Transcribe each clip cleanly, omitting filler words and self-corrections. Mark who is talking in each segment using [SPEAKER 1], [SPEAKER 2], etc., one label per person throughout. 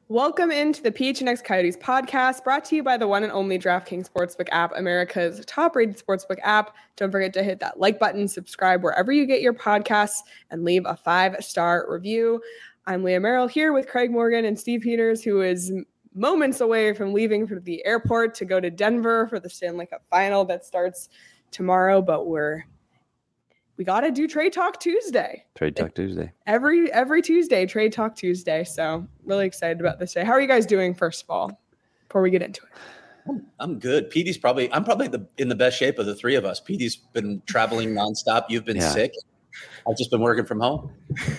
[SPEAKER 1] Welcome into the PHNX Coyotes podcast, brought to you by the one and only DraftKings Sportsbook app, America's top-rated sportsbook app. Don't forget to hit that like button, subscribe wherever you get your podcasts, and leave a 5-star review. I'm Leah Merrill here with Craig Morgan and Steve Peters, who is moments away from leaving for the airport to go to Denver for the Stanley Cup final that starts tomorrow, but we got to do Trade Talk Tuesday.
[SPEAKER 2] Trade Talk Tuesday.
[SPEAKER 1] Every Tuesday, Trade Talk Tuesday. So really excited about this day. How are you guys doing, first of all, before we get into it?
[SPEAKER 3] I'm good. I'm probably in the best shape of the three of us. Petey's been traveling nonstop. You've been sick. I've just been working from home.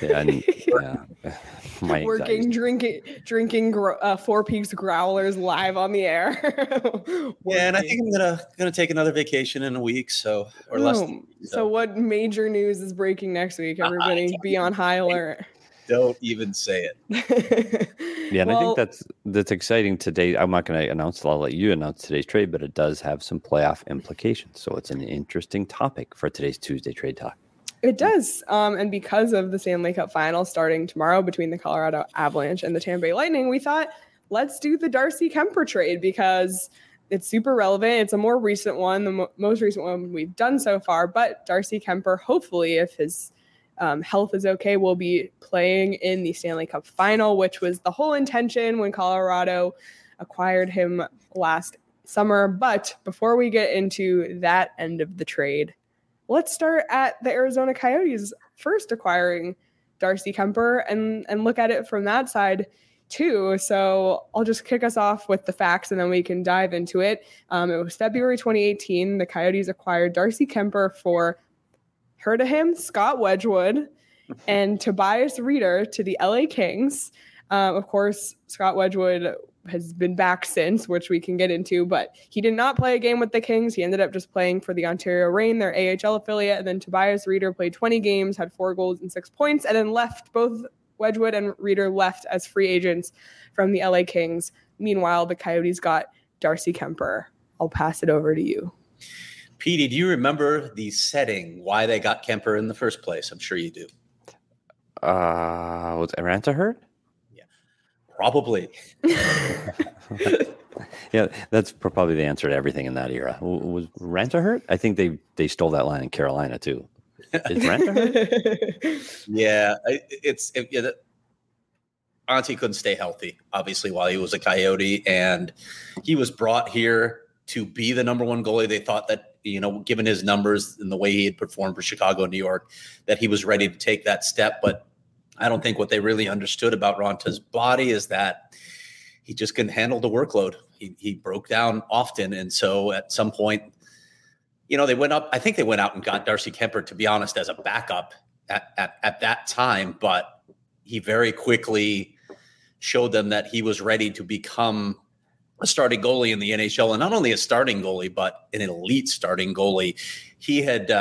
[SPEAKER 1] Working, drinking Four Peaks growlers live on the air.
[SPEAKER 3] And I think I'm gonna take another vacation in a week, less.
[SPEAKER 1] So what major news is breaking next week? Everybody be on high alert.
[SPEAKER 3] Don't even say it.
[SPEAKER 2] I think that's exciting today. I'm not going to announce it. I'll let you announce today's trade, but it does have some playoff implications. So it's an interesting topic for today's Tuesday Trade Talk.
[SPEAKER 1] It does. And because of the Stanley Cup final starting tomorrow between the Colorado Avalanche and the Tampa Bay Lightning, we thought, let's do the Darcy Kuemper trade because it's super relevant. It's a more recent one, the most recent one we've done so far. But Darcy Kuemper, hopefully, if his health is okay, will be playing in the Stanley Cup final, which was the whole intention when Colorado acquired him last summer. But before we get into that end of the trade, let's start at the Arizona Coyotes first acquiring Darcy Kuemper and look at it from that side too. So I'll just kick us off with the facts and then we can dive into it. It was February 2018. The Coyotes acquired Darcy Kuemper for, heard of him, Scott Wedgwood, and Tobias Reeder to the LA Kings. Of course, Scott Wedgwood has been back since, which we can get into, but he did not play a game with the Kings. He ended up just playing for the Ontario Reign, their AHL affiliate. And then Tobias Reeder played 20 games, had 4 goals and 6 points, and then left. Both Wedgwood and Reeder left as free agents from the LA Kings. Meanwhile, the Coyotes got Darcy Kuemper. I'll pass it over to you.
[SPEAKER 3] Petey, do you remember the setting, why they got Kuemper in the first place? I'm sure you do.
[SPEAKER 2] Was Aranta hurt?
[SPEAKER 3] Probably.
[SPEAKER 2] Yeah, that's probably the answer to everything in that era. Was Ranta hurt? I think they stole that line in Carolina too. Is Ranta hurt?
[SPEAKER 3] Yeah, Auntie couldn't stay healthy, obviously, while he was a Coyote, and he was brought here to be the number one goalie. They thought that, given his numbers and the way he had performed for Chicago and New York, that he was ready to take that step, but I don't think what they really understood about Ranta's body is that he just couldn't handle the workload. He broke down often. And so at some point, they went up. I think they went out and got Darcy Kuemper, to be honest, as a backup at that time. But he very quickly showed them that he was ready to become a starting goalie in the NHL. And not only a starting goalie, but an elite starting goalie. He had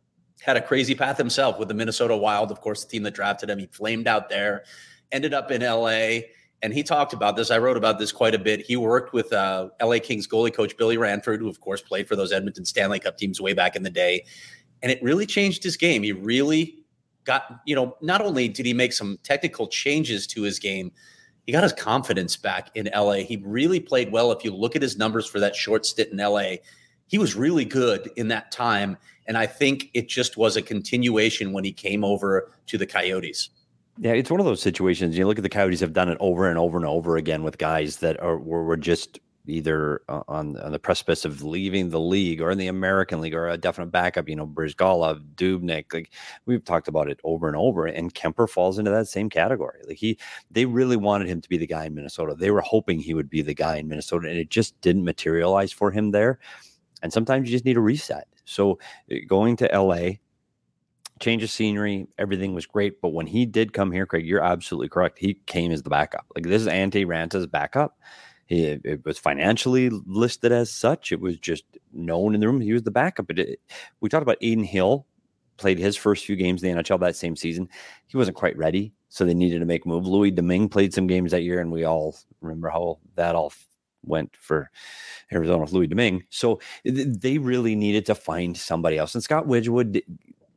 [SPEAKER 3] a crazy path himself with the Minnesota Wild, of course, the team that drafted him. He flamed out there, ended up in LA, and he talked about this. I wrote about this quite a bit. He worked with LA Kings goalie coach Billy Ranford, who, of course, played for those Edmonton Stanley Cup teams way back in the day, and it really changed his game. He really got, not only did he make some technical changes to his game, he got his confidence back in LA. He really played well. If you look at his numbers for that short stint in LA, he was really good in that time. And I think it just was a continuation when he came over to the Coyotes.
[SPEAKER 2] Yeah, it's one of those situations. You look at the Coyotes have done it over and over and over again with guys that were just either on the precipice of leaving the league or in the American League or a definite backup, Brizgalov, Dubnyk. Like we've talked about it over and over, and Kuemper falls into that same category. Like they really wanted him to be the guy in Minnesota. They were hoping he would be the guy in Minnesota, and it just didn't materialize for him there. And sometimes you just need a reset. So going to LA, change of scenery, everything was great. But when he did come here, Craig, you're absolutely correct. He came as the backup. Like this is Antti Ranta's backup. It was financially listed as such. It was just known in the room. He was the backup. We talked about Aiden Hill, played his first few games in the NHL that same season. He wasn't quite ready, so they needed to make a move. Louis Domingue played some games that year, and we all remember how that all went for Arizona with Louis Domingue. So they really needed to find somebody else. And Scott Wedgwood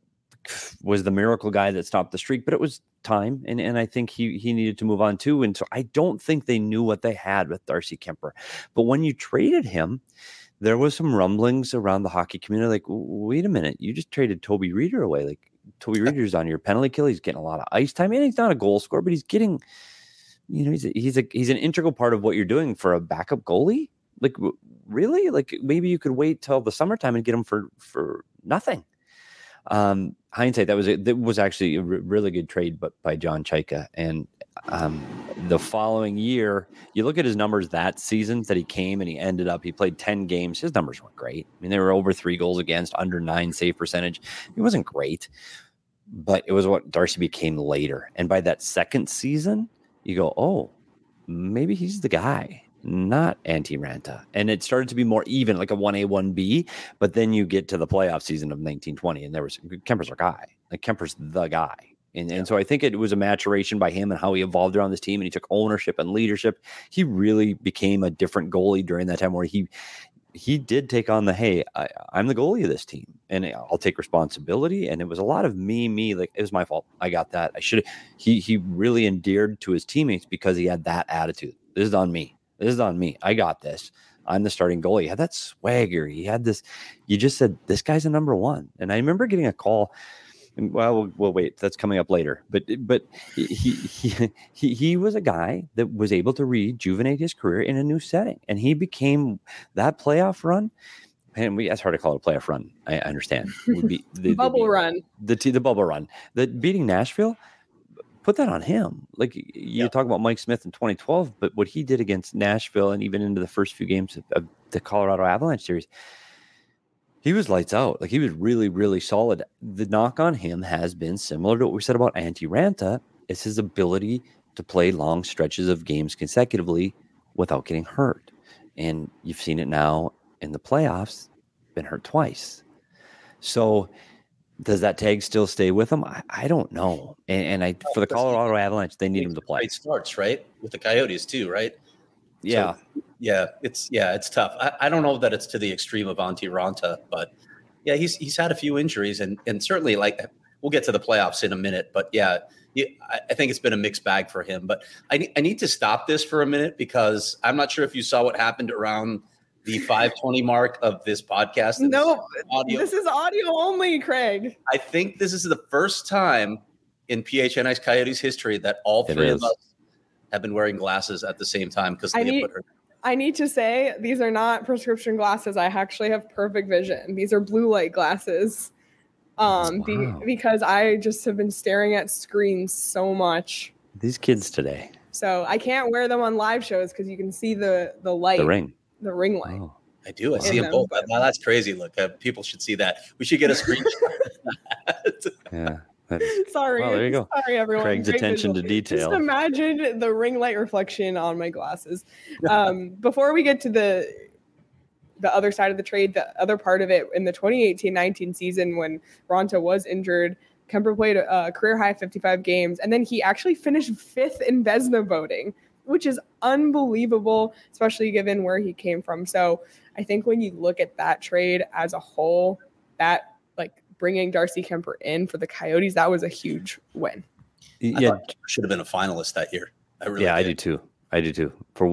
[SPEAKER 2] was the miracle guy that stopped the streak, but it was time. And I think he needed to move on too. And so I don't think they knew what they had with Darcy Kuemper. But when you traded him, there was some rumblings around the hockey community. Like, wait a minute, you just traded Toby Reeder away. Like, Toby Reeder's on your penalty kill. He's getting a lot of ice time. And he's not a goal scorer, but he's getting, he's an integral part of what you're doing for a backup goalie. Like, really? Like, maybe you could wait till the summertime and get him for nothing. Hindsight, that was actually a really good trade, but by John Chaika. And the following year, you look at his numbers that season that he came and he played 10 games. His numbers weren't great. I mean, they were over 3 goals against, under 9 save percentage. It wasn't great, but it was what Darcy became later. And by that second season, you go, oh, maybe he's the guy, not Antti Raanta. And it started to be more even, like a 1A, 1B. But then you get to the playoff season of 1920, and Kuemper's our guy. Like, Kuemper's the guy. And so I think it was a maturation by him and how he evolved around this team, and he took ownership and leadership. He really became a different goalie during that time, where he did take on I'm the goalie of this team, and I'll take responsibility. And it was a lot of me, like, it was my fault. I got that. I should. He really endeared to his teammates because he had that attitude. This is on me. I got this. I'm the starting goalie. He had that swagger. He had this. You just said, this guy's a number one. And I remember getting a call. Well, wait, that's coming up later. But he was a guy that was able to rejuvenate his career in a new setting, and he became that playoff run. And that's hard to call it a playoff run. I understand. Would be the
[SPEAKER 1] bubble run.
[SPEAKER 2] The bubble run. That beating Nashville. Put that on him. Like, you talk about Mike Smith in 2012, but what he did against Nashville and even into the first few games of the Colorado Avalanche series, he was lights out. Like, he was really, really solid. The knock on him has been similar to what we said about Antti Raanta. It's his ability to play long stretches of games consecutively without getting hurt. And you've seen it now in the playoffs, been hurt twice. So does that tag still stay with him? I don't know. And for the Colorado Avalanche, they need him to play.
[SPEAKER 3] Great starts, right? With the Coyotes too, right?
[SPEAKER 2] Yeah.
[SPEAKER 3] So, it's tough. I don't know that it's to the extreme of Antti Raanta, but yeah, he's had a few injuries, and certainly, like, we'll get to the playoffs in a minute, but yeah, I think it's been a mixed bag for him. But I need to stop this for a minute, because I'm not sure if you saw what happened around the 5:20 mark of this podcast.
[SPEAKER 1] No, this is audio only, Craig.
[SPEAKER 3] I think this is the first time in PHNX Coyotes history that all three of us have been wearing glasses at the same time, because Leah put her.
[SPEAKER 1] I need to say, these are not prescription glasses. I actually have perfect vision. These are blue light glasses. Because I just have been staring at screens so much.
[SPEAKER 2] These kids today.
[SPEAKER 1] So I can't wear them on live shows because you can see the light. The ring light.
[SPEAKER 2] Oh.
[SPEAKER 3] I do. I see them both. Wow, that's crazy. Look, people should see that. We should get a screenshot of that.
[SPEAKER 2] Yeah.
[SPEAKER 1] Sorry.
[SPEAKER 2] Well, there you go.
[SPEAKER 1] Sorry, everyone.
[SPEAKER 2] Craig's attention to detail.
[SPEAKER 1] Just imagine the ring light reflection on my glasses. Before we get to the other side of the trade, the other part of it, in the 2018-19 season when Raanta was injured, Kuemper played a career high 55 games, and then he actually finished 5th in Vezina voting, which is unbelievable, especially given where he came from. So I think when you look at that trade as a whole, that, like, bringing Darcy Kuemper in for the Coyotes, that was a huge win.
[SPEAKER 3] Yeah, should have been a finalist that year.
[SPEAKER 2] I do too. For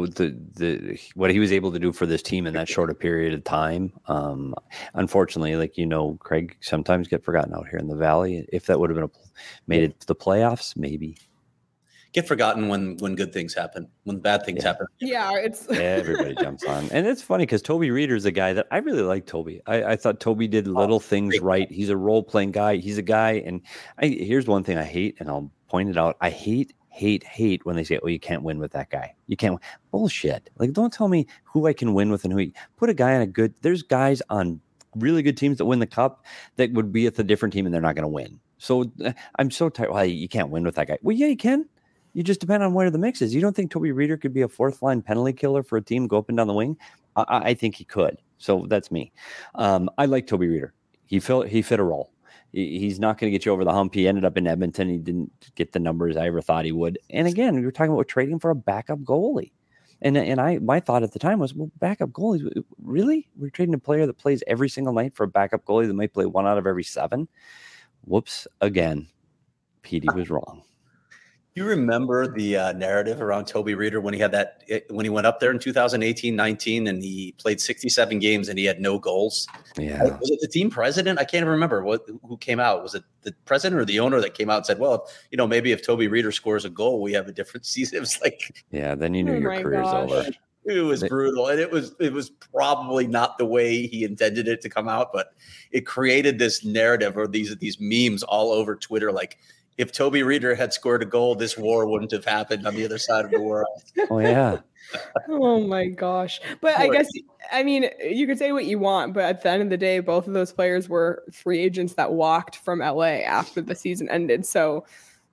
[SPEAKER 2] what he was able to do for this team in that shorter period of time. Unfortunately, like, Craig, sometimes get forgotten out here in the Valley. If that would have been made it to the playoffs, maybe.
[SPEAKER 3] Get forgotten when good things happen, when bad things happen.
[SPEAKER 1] Yeah,
[SPEAKER 2] everybody jumps on. And it's funny because Toby Reeder is a guy that I really like. Toby. I thought Toby did little things right. He's a role-playing guy. He's a guy. And here's one thing I hate, and I'll point it out. I hate when they say, oh, you can't win with that guy. You can't win. Bullshit. Like, don't tell me who I can win with and put a guy on there's guys on really good teams that win the cup that would be at a different team and they're not going to win. So I'm so tired. Well, you can't win with that guy. Well, yeah, you can. You just depend on where the mix is. You don't think Toby Reeder could be a 4th-line penalty killer for a team, go up and down the wing? I think he could. So that's me. I like Toby Reeder. He fit a role. He's not going to get you over the hump. He ended up in Edmonton. He didn't get the numbers I ever thought he would. And again, we were talking about trading for a backup goalie. And my thought at the time was, well, backup goalies, really? We're trading a player that plays every single night for a backup goalie that might play 1 out of every 7? whoops, again, Petey was wrong.
[SPEAKER 3] You remember the narrative around Toby Reeder when he had when he went up there in 2018-19 and he played 67 games and he had no goals?
[SPEAKER 2] Yeah.
[SPEAKER 3] Was it the team president? I can't remember who came out. Was it the president or the owner that came out and said, well, maybe if Toby Reeder scores a goal, we have a different season. It was like,
[SPEAKER 2] yeah, then you knew your career's over.
[SPEAKER 3] It was brutal. And it was probably not the way he intended it to come out, but it created this narrative or these memes all over Twitter. Like, if Toby Reeder had scored a goal, this war wouldn't have happened on the other side of the world.
[SPEAKER 2] Oh, yeah.
[SPEAKER 1] Oh, my gosh. But I guess, you could say what you want, but at the end of the day, both of those players were free agents that walked from LA after the season ended. So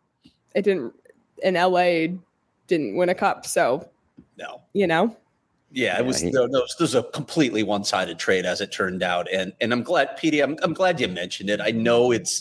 [SPEAKER 1] LA didn't win a cup. So,
[SPEAKER 3] no.
[SPEAKER 2] Yeah,
[SPEAKER 3] it was a completely one-sided trade as it turned out. And I'm glad, Petey, I'm glad you mentioned it. I know it's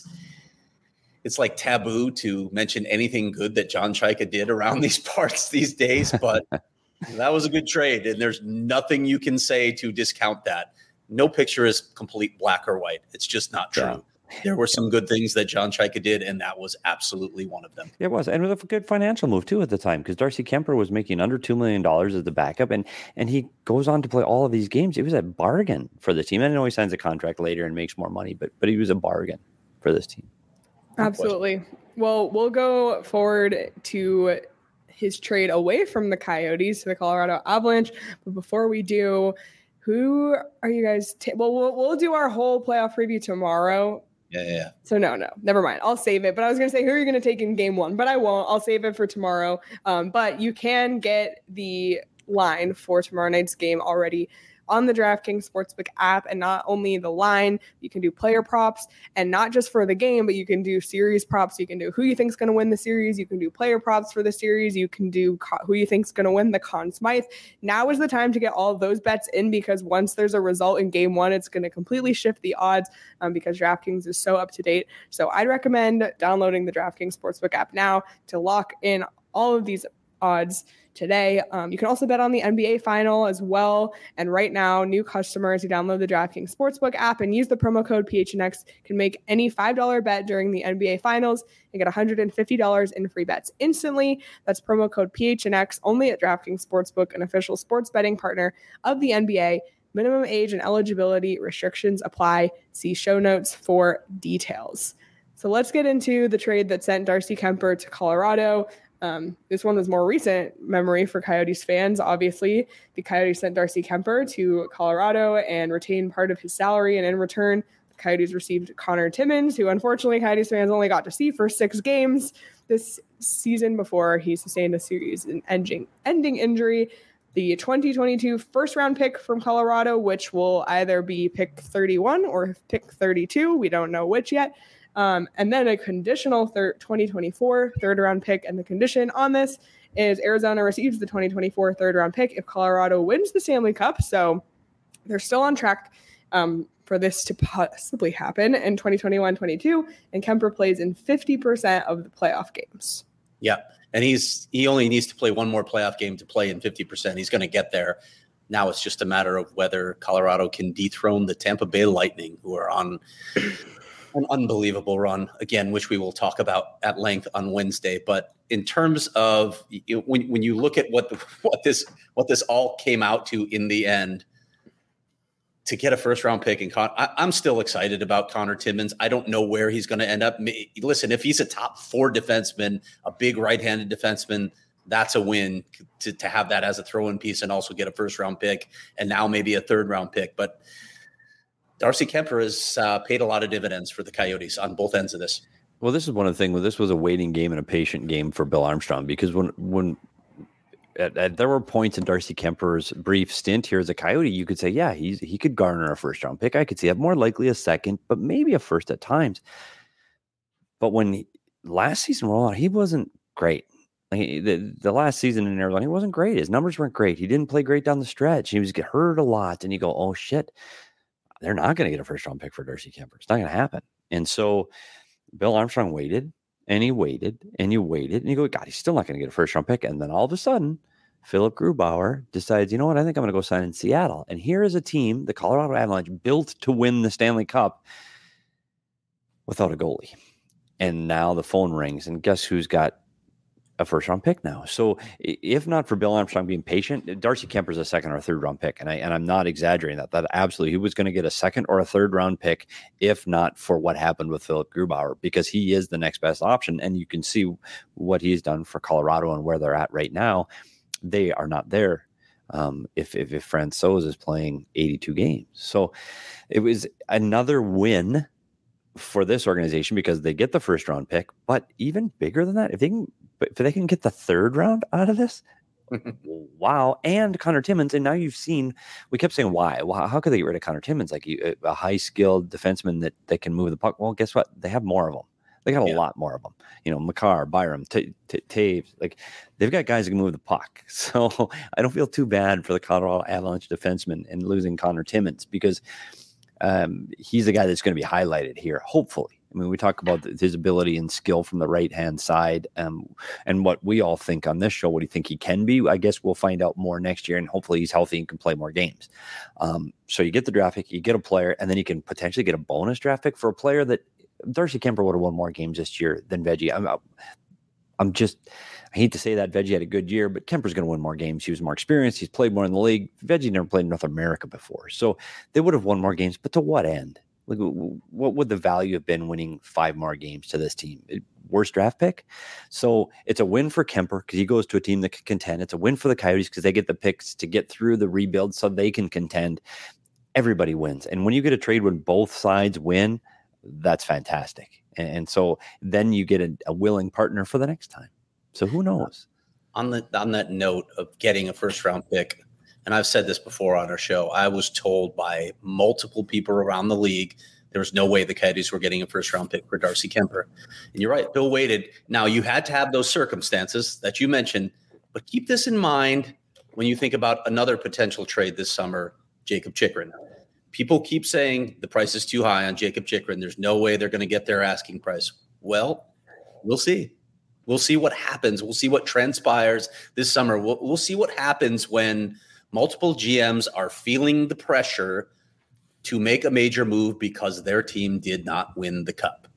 [SPEAKER 3] like taboo to mention anything good that John Chayka did around these parts these days, but that was a good trade. And there's nothing you can say to discount that. No picture is complete black or white. It's just not true. Yeah. There were some good things that John Chayka did, and that was absolutely one of them.
[SPEAKER 2] It was, and with a good financial move too at the time, because Darcy Kemper was making under $2 million as the backup, and he goes on to play all of these games. It was a bargain for the team. I know he signs a contract later and makes more money, but he was a bargain for this team.
[SPEAKER 1] Absolutely. Well, we'll go forward to his trade away from the Coyotes to the Colorado Avalanche. But before we do, who are you guys? We'll do our whole playoff preview tomorrow.
[SPEAKER 3] Yeah.
[SPEAKER 1] So no, never mind. I'll save it. But I was going to say, who are you going to take in game one? But I won't. I'll save it for tomorrow. But you can get the line for tomorrow night's game already on the DraftKings Sportsbook app, and not only the line, you can do player props, and not just for the game, but you can do series props. You can do who you think's going to win the series. You can do player props for the series. You can do who you think's going to win the Conn Smythe. Now is the time to get all of those bets in, because once there's a result in game one, it's going to completely shift the odds because DraftKings is so up to date. So I'd recommend downloading the DraftKings Sportsbook app now to lock in all of these odds today. You can also bet on the NBA final as well. And right now, new customers who download the DraftKings Sportsbook app and use the promo code PHNX can make any $5 bet during the NBA finals and get $150 in free bets instantly. That's promo code PHNX only at DraftKings Sportsbook, an official sports betting partner of the NBA. Minimum age and eligibility restrictions apply. See show notes for details. So let's get into the trade that sent Darcy Kuemper to Colorado. This one was more recent memory for Coyotes fans. Obviously, the Coyotes sent Darcy Kuemper to Colorado and retained part of his salary. And in return, the Coyotes received Connor Timmins, who unfortunately Coyotes fans only got to see for 6 games this season before he sustained a series ending injury. The 2022 first-round pick from Colorado, which will either be pick 31 or pick 32. We don't know which yet. And then a conditional 2024 third-round pick. And the condition on this is Arizona receives the 2024 third-round pick if Colorado wins the Stanley Cup. So they're still on track for this to possibly happen in 2021-22. And Kuemper plays in 50% of the playoff games.
[SPEAKER 3] Yeah, and he only needs to play one more playoff game to play in 50%. He's going to get there. Now it's just a matter of whether Colorado can dethrone the Tampa Bay Lightning, who are on an unbelievable run, again, which we will talk about at length on Wednesday. But in terms of when you look at what this all came out to in the end, to get a first round pick, and I'm still excited about Connor Timmins. I don't know where he's going to end up. Listen, if he's a top 4 defenseman, a big right-handed defenseman, that's a win to have that as a throw-in piece and also get a first round pick and now maybe a third round pick. But Darcy Kuemper has paid a lot of dividends for the Coyotes on both ends of this.
[SPEAKER 2] Well, this is one of the things. This was a waiting game and a patient game for Bill Armstrong, because when there were points in Darcy Kemper's brief stint here as a Coyote, you could say, yeah, he could garner a first round pick. I could see it more likely a second, but maybe a first at times. But when last season rolled out, he wasn't great. Like the last season in Arizona, he wasn't great. His numbers weren't great. He didn't play great down the stretch. He was get hurt a lot, and you go, oh shit. They're not going to get a first-round pick for Darcy Kuemper. It's not going to happen. And so Bill Armstrong waited, and he waited, and he waited, and you go, God, he's still not going to get a first-round pick. And then all of a sudden, Philip Grubauer decides, you know what, I think I'm going to go sign in Seattle. And here is a team, the Colorado Avalanche, built to win the Stanley Cup. without a goalie. And now the phone rings, and guess who's got a first-round pick now? So if not for Bill Armstrong being patient, Darcy Kemper's a second or third-round pick, and I'm not exaggerating that. That absolutely, he was going to get a second or a third-round pick if not for what happened with Philip Grubauer, because he is the next best option. And you can see what he's done for Colorado and where they're at right now. They are not there if Francouz is playing 82 games. So it was another win for this organization because they get the first-round pick, but even bigger than that, if they can get the third round out of this, wow. And Connor Timmins, and now you've seen, we kept saying, why? Well, how could they get rid of Connor Timmins? Like a high-skilled defenseman that can move the puck. Well, guess what? They have more of them. They got a lot more of them. Makar, Byram, Taves. Like, they've got guys that can move the puck. So I don't feel too bad for the Colorado Avalanche defenseman and losing Connor Timmins, because he's the guy that's going to be highlighted here, hopefully. I mean, we talk about his ability and skill from the right-hand side, and what we all think on this show, what do you think he can be? I guess we'll find out more next year, and hopefully he's healthy and can play more games. So you get the draft pick, you get a player, and then you can potentially get a bonus draft pick for a player that Darcy Kemper would have won more games this year than Veggie. I hate to say that Veggie had a good year, but Kemper's going to win more games. He was more experienced. He's played more in the league. Veggie never played in North America before. So they would have won more games, but to what end? Like, what would the value have been winning 5 more games to this team? Worst draft pick? So it's a win for Kemper because he goes to a team that can contend. It's a win for the Coyotes because they get the picks to get through the rebuild so they can contend. Everybody wins. And when you get a trade when both sides win, that's fantastic. And so then you get a willing partner for the next time. So who knows?
[SPEAKER 3] On that note of getting a first-round pick, and I've said this before on our show, I was told by multiple people around the league there was no way the Coyotes were getting a first-round pick for Darcy Kemper. And you're right, Bill waited. Now, you had to have those circumstances that you mentioned, but keep this in mind when you think about another potential trade this summer, Jakob Chychrun. People keep saying the price is too high on Jakob Chychrun. There's no way they're going to get their asking price. Well, we'll see. We'll see what happens. We'll see what transpires this summer. We'll see what happens when multiple GMs are feeling the pressure to make a major move because their team did not win the cup.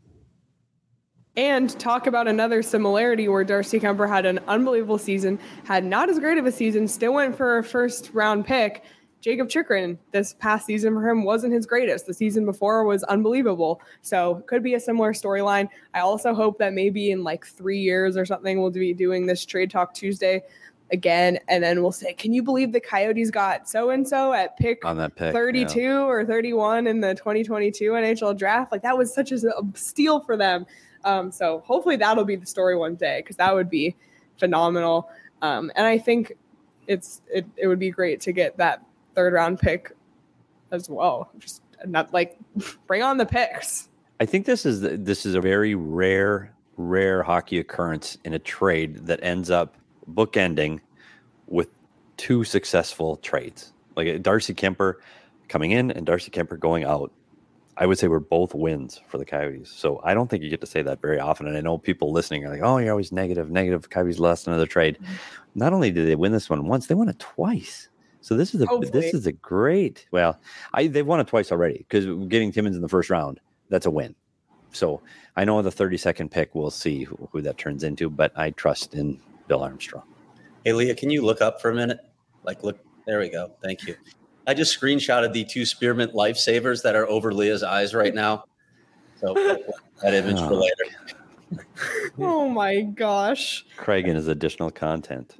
[SPEAKER 1] And talk about another similarity where Darcy Kemper had an unbelievable season, had not as great of a season, still went for a first-round pick. Jakob Chychrun, this past season for him wasn't his greatest. The season before was unbelievable. So could be a similar storyline. I also hope that maybe in like 3 years or something, we'll be doing this Trade Talk Tuesday again, and then we'll say, can you believe the Coyotes got so-and-so at pick
[SPEAKER 2] on that pick
[SPEAKER 1] 32 or 31 in the 2022 NHL draft? Like, that was such a steal for them. So hopefully that'll be the story one day, because that would be phenomenal. And I think it would be great to get that third-round pick as well. Just not like bring on the picks.
[SPEAKER 2] I think this is a very rare hockey occurrence in a trade that ends up bookending with 2 successful trades, like Darcy Kemper coming in and Darcy Kemper going out. I would say we're both wins for the Coyotes. So I don't think you get to say that very often. And I know people listening are like, oh, you're always negative. Coyotes lost another trade. Mm-hmm. Not only did they win this one once, they won it twice. So this is a great. Well, they've won it twice already, because getting Timmins in the first round, that's a win. So I know the 32nd pick, we'll see who that turns into, but I trust in Bill Armstrong.
[SPEAKER 3] Hey, Leah, can you look up for a minute? Look, there we go. Thank you. I just screenshotted the 2 spearmint lifesavers that are over Leah's eyes right now. So that image for later.
[SPEAKER 1] Oh my gosh.
[SPEAKER 2] Craig and his additional content.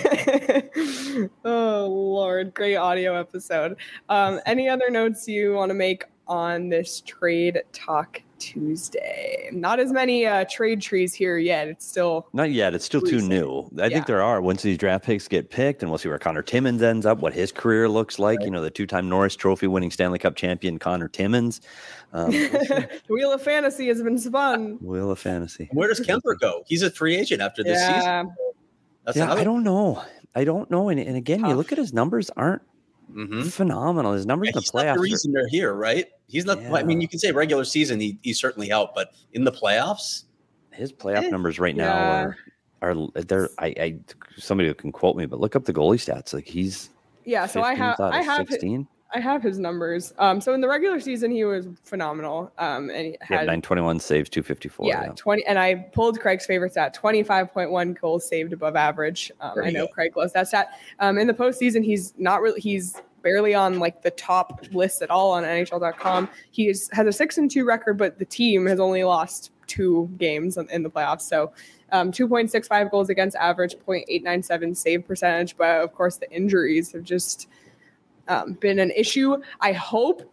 [SPEAKER 1] Oh Lord, great audio episode. Any other notes you want to make on this Trade Talk Tuesday? Not as many trade trees here yet. It's still
[SPEAKER 2] not yet. It's still too new. I think there are. Once these draft picks get picked, and we'll see where Connor Timmins ends up, what his career looks like. Right. The 2-time Norris Trophy winning Stanley Cup champion Connor Timmins.
[SPEAKER 1] The Wheel of Fantasy has been spun.
[SPEAKER 2] Wheel of Fantasy.
[SPEAKER 3] Where does Kemper go? He's a free agent after this season.
[SPEAKER 2] I don't know. And again, you look at his numbers aren't phenomenal. His numbers in the playoffs. Not the
[SPEAKER 3] reason they're here, right? He's not. Yeah. I mean, you can say regular season he certainly helped, but in the playoffs,
[SPEAKER 2] his playoff numbers right now are somebody who can quote me, but look up the goalie stats. Like he's
[SPEAKER 1] So I have
[SPEAKER 2] 16.
[SPEAKER 1] I have his numbers. So in the regular season, he was phenomenal. And he had
[SPEAKER 2] 921 saves, 254.
[SPEAKER 1] Yeah, 20. And I pulled Craig's favorite stat, 25.1 goals saved above average. I know Craig loves that stat. In the postseason, he's barely on like the top list at all on NHL.com. He has a 6-2 record, but the team has only lost 2 games in the playoffs. So 2.65 goals against average, 0.897 save percentage. But of course, the injuries have just been an issue. I hope,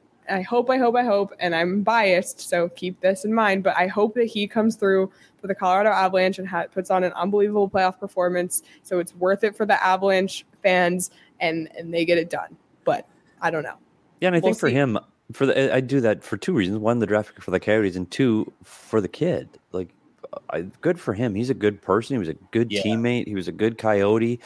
[SPEAKER 1] and I'm biased, so keep this in mind, but I hope that he comes through for the Colorado Avalanche and puts on an unbelievable playoff performance, so it's worth it for the Avalanche fans, and they get it done. But I don't know.
[SPEAKER 2] Yeah, and I think for him, I do that for 2 reasons. 1, the draft pick for the Coyotes, and 2, for the kid. Like, good for him. He's a good person. He was a good teammate. He was a good Coyote.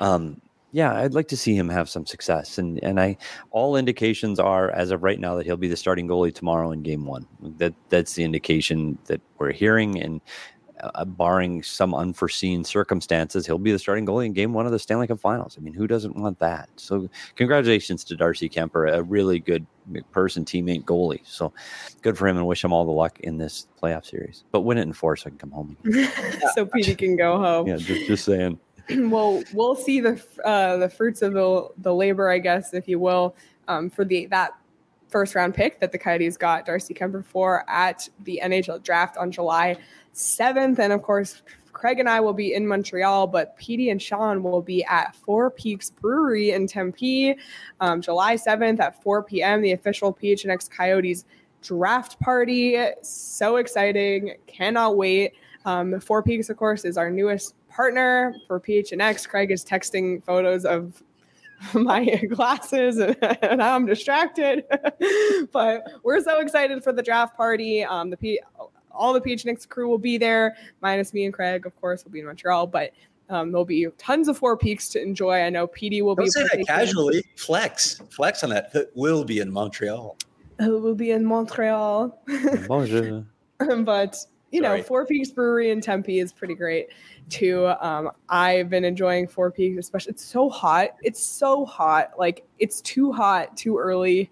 [SPEAKER 2] Yeah, I'd like to see him have some success, and all indications are as of right now that he'll be the starting goalie tomorrow in Game 1. That's the indication that we're hearing, and barring some unforeseen circumstances, he'll be the starting goalie in Game 1 of the Stanley Cup Finals. I mean, who doesn't want that? So, congratulations to Darcy Kuemper, a really good person, teammate, goalie. So, good for him, and wish him all the luck in this playoff series. But win it in 4 so I can come home.
[SPEAKER 1] So Petey can go home.
[SPEAKER 2] Yeah, just saying.
[SPEAKER 1] Well, we'll see the fruits of the labor, I guess, if you will, for that first round pick that the Coyotes got Darcy Kuemper for at the NHL draft on July 7th. And of course, Craig and I will be in Montreal, but Petey and Sean will be at Four Peaks Brewery in Tempe, July 7th at 4 p.m., the official PHNX Coyotes draft party. So exciting. Cannot wait. Four Peaks, of course, is our newest partner for PHNX. Craig is texting photos of my glasses and I'm distracted. But we're so excited for the draft party. All the PHNX crew will be there, minus me and Craig, of course, will be in Montreal. But there'll be tons of Four Peaks to enjoy. I know Petey will be.
[SPEAKER 3] Don't say that casually. Flex on that. It will be in Montreal.
[SPEAKER 1] We'll be in Montreal.
[SPEAKER 2] Bonjour.
[SPEAKER 1] But you know, Four Peaks Brewery in Tempe is pretty great too. I've been enjoying Four Peaks, especially. It's so hot. Like, it's too hot, too early.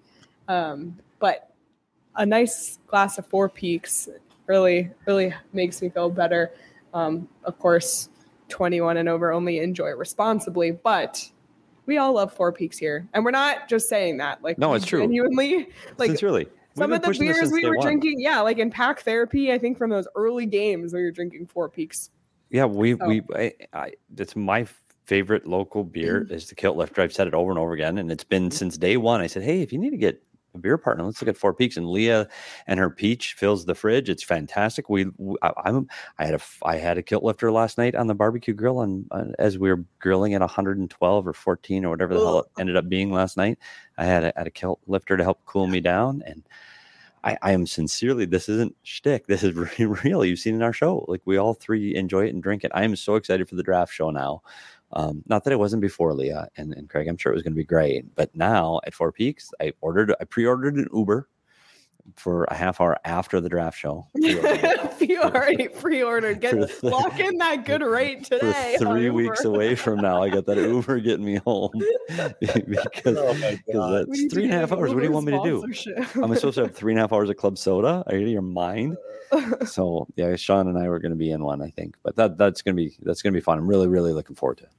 [SPEAKER 1] But a nice glass of Four Peaks really, really makes me feel better. Of course, 21 and over, only enjoy responsibly, but we all love Four Peaks here. And we're not just saying that. Like,
[SPEAKER 2] no, it's true.
[SPEAKER 1] Genuinely, like,
[SPEAKER 2] sincerely.
[SPEAKER 1] Some of the beers we were drinking, like in Pack Therapy, I think from those early games we were drinking Four Peaks.
[SPEAKER 2] Yeah, it's my favorite local beer is the Kilt Lifter. I've said it over and over again, and it's been since day one. I said, hey, if you need to get a beer partner, let's look at Four Peaks. And Leah and her peach fills the fridge. It's fantastic. I had a Kilt Lifter last night on the barbecue grill, as we were grilling at 112 or 14 or whatever the hell it ended up being last night. I had a Kilt Lifter to help cool me down, and I am sincerely, this isn't shtick. This is real. You've seen in our show. Like, we all three enjoy it and drink it. I am so excited for the draft show now. Not that it wasn't before, Leah and Craig. I'm sure it was going to be great. But now at Four Peaks, I pre-ordered an Uber for a half hour after the draft show.
[SPEAKER 1] You already pre-ordered. Lock in that good rate today.
[SPEAKER 2] For 3 weeks away from now, I got that Uber getting me home because that's 3.5 hours. What do you want me to do? I'm supposed to have 3.5 hours of club soda? Are you out of your mind? So yeah, Sean and I were going to be in one, I think, but that's going to be fun. I'm really, really looking forward to it.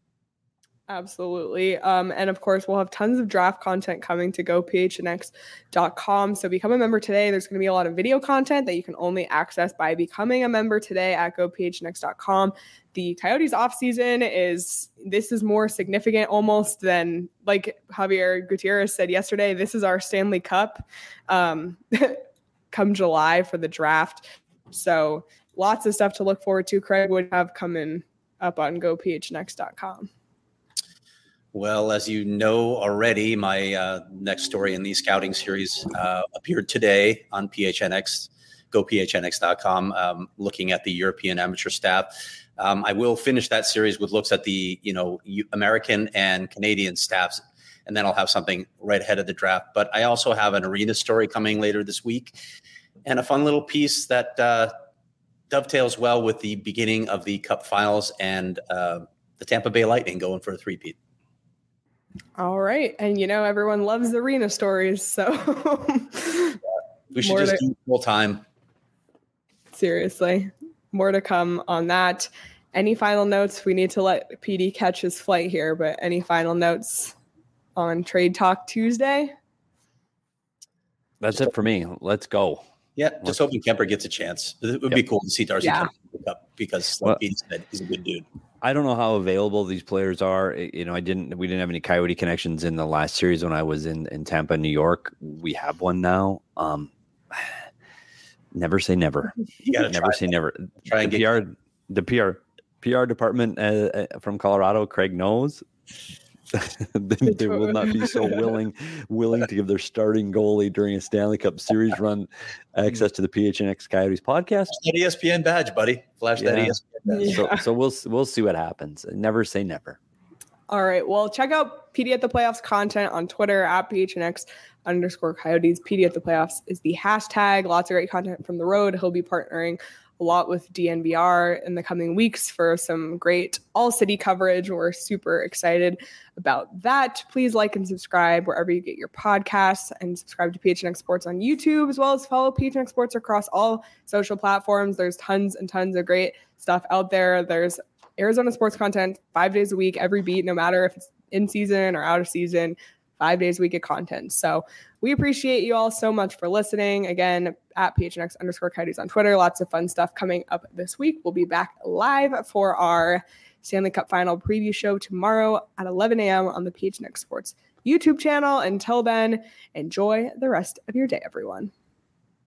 [SPEAKER 1] Absolutely. And of course, we'll have tons of draft content coming to gophnx.com. So become a member today. There's going to be a lot of video content that you can only access by becoming a member today at gophnx.com. The Coyotes offseason is more significant almost than, like Javier Gutierrez said yesterday, this is our Stanley Cup come July for the draft. So lots of stuff to look forward to. Craig would have coming up on gophnx.com.
[SPEAKER 3] Well, as you know already, my next story in the scouting series appeared today on PHNX, gophnx.com, looking at the European amateur staff. I will finish that series with looks at the American and Canadian staffs, and then I'll have something right ahead of the draft. But I also have an arena story coming later this week, and a fun little piece that dovetails well with the beginning of the Cup Finals and the Tampa Bay Lightning going for a three-peat.
[SPEAKER 1] All right. And everyone loves the arena stories. So
[SPEAKER 3] we should just do full time.
[SPEAKER 1] Seriously. More to come on that. Any final notes? We need to let PD catch his flight here, but any final notes on Trade Talk Tuesday?
[SPEAKER 2] That's it for me. Let's go.
[SPEAKER 3] Yeah, just hoping Kuemper gets a chance. It would be cool to see Darcy come up because, like Pete said, he's a good dude.
[SPEAKER 2] I don't know how available these players are. We didn't have any Coyote connections in the last series when I was in Tampa, New York. We have one now. Never say never.
[SPEAKER 3] You gotta
[SPEAKER 2] never say never.
[SPEAKER 3] Try and
[SPEAKER 2] the PR department from Colorado, Craig knows. They will not be so willing to give their starting goalie during a Stanley Cup Series run access to the PHNX Coyotes podcast.
[SPEAKER 3] Flash that ESPN badge, buddy. Flash that ESPN badge.
[SPEAKER 2] Yeah. So we'll see what happens. Never say never.
[SPEAKER 1] All right. Well, check out PD at the Playoffs content on Twitter at PHNX_Coyotes. PD at the Playoffs is the hashtag. Lots of great content from the road. He'll be partnering a lot with DNVR in the coming weeks for some great all-city coverage. We're super excited about that. Please like and subscribe wherever you get your podcasts, and subscribe to PHNX Sports on YouTube, as well as follow PHNX Sports across all social platforms. There's tons and tons of great stuff out there. There's Arizona sports content 5 days a week, every beat, no matter if it's in season or out of season, 5 days a week of content. So we appreciate you all so much for listening. Again, at PHNX_Coyotes on Twitter. Lots of fun stuff coming up this week. We'll be back live for our Stanley Cup Final preview show tomorrow at 11 a.m. on the PHNX Sports YouTube channel. Until then, enjoy the rest of your day, everyone.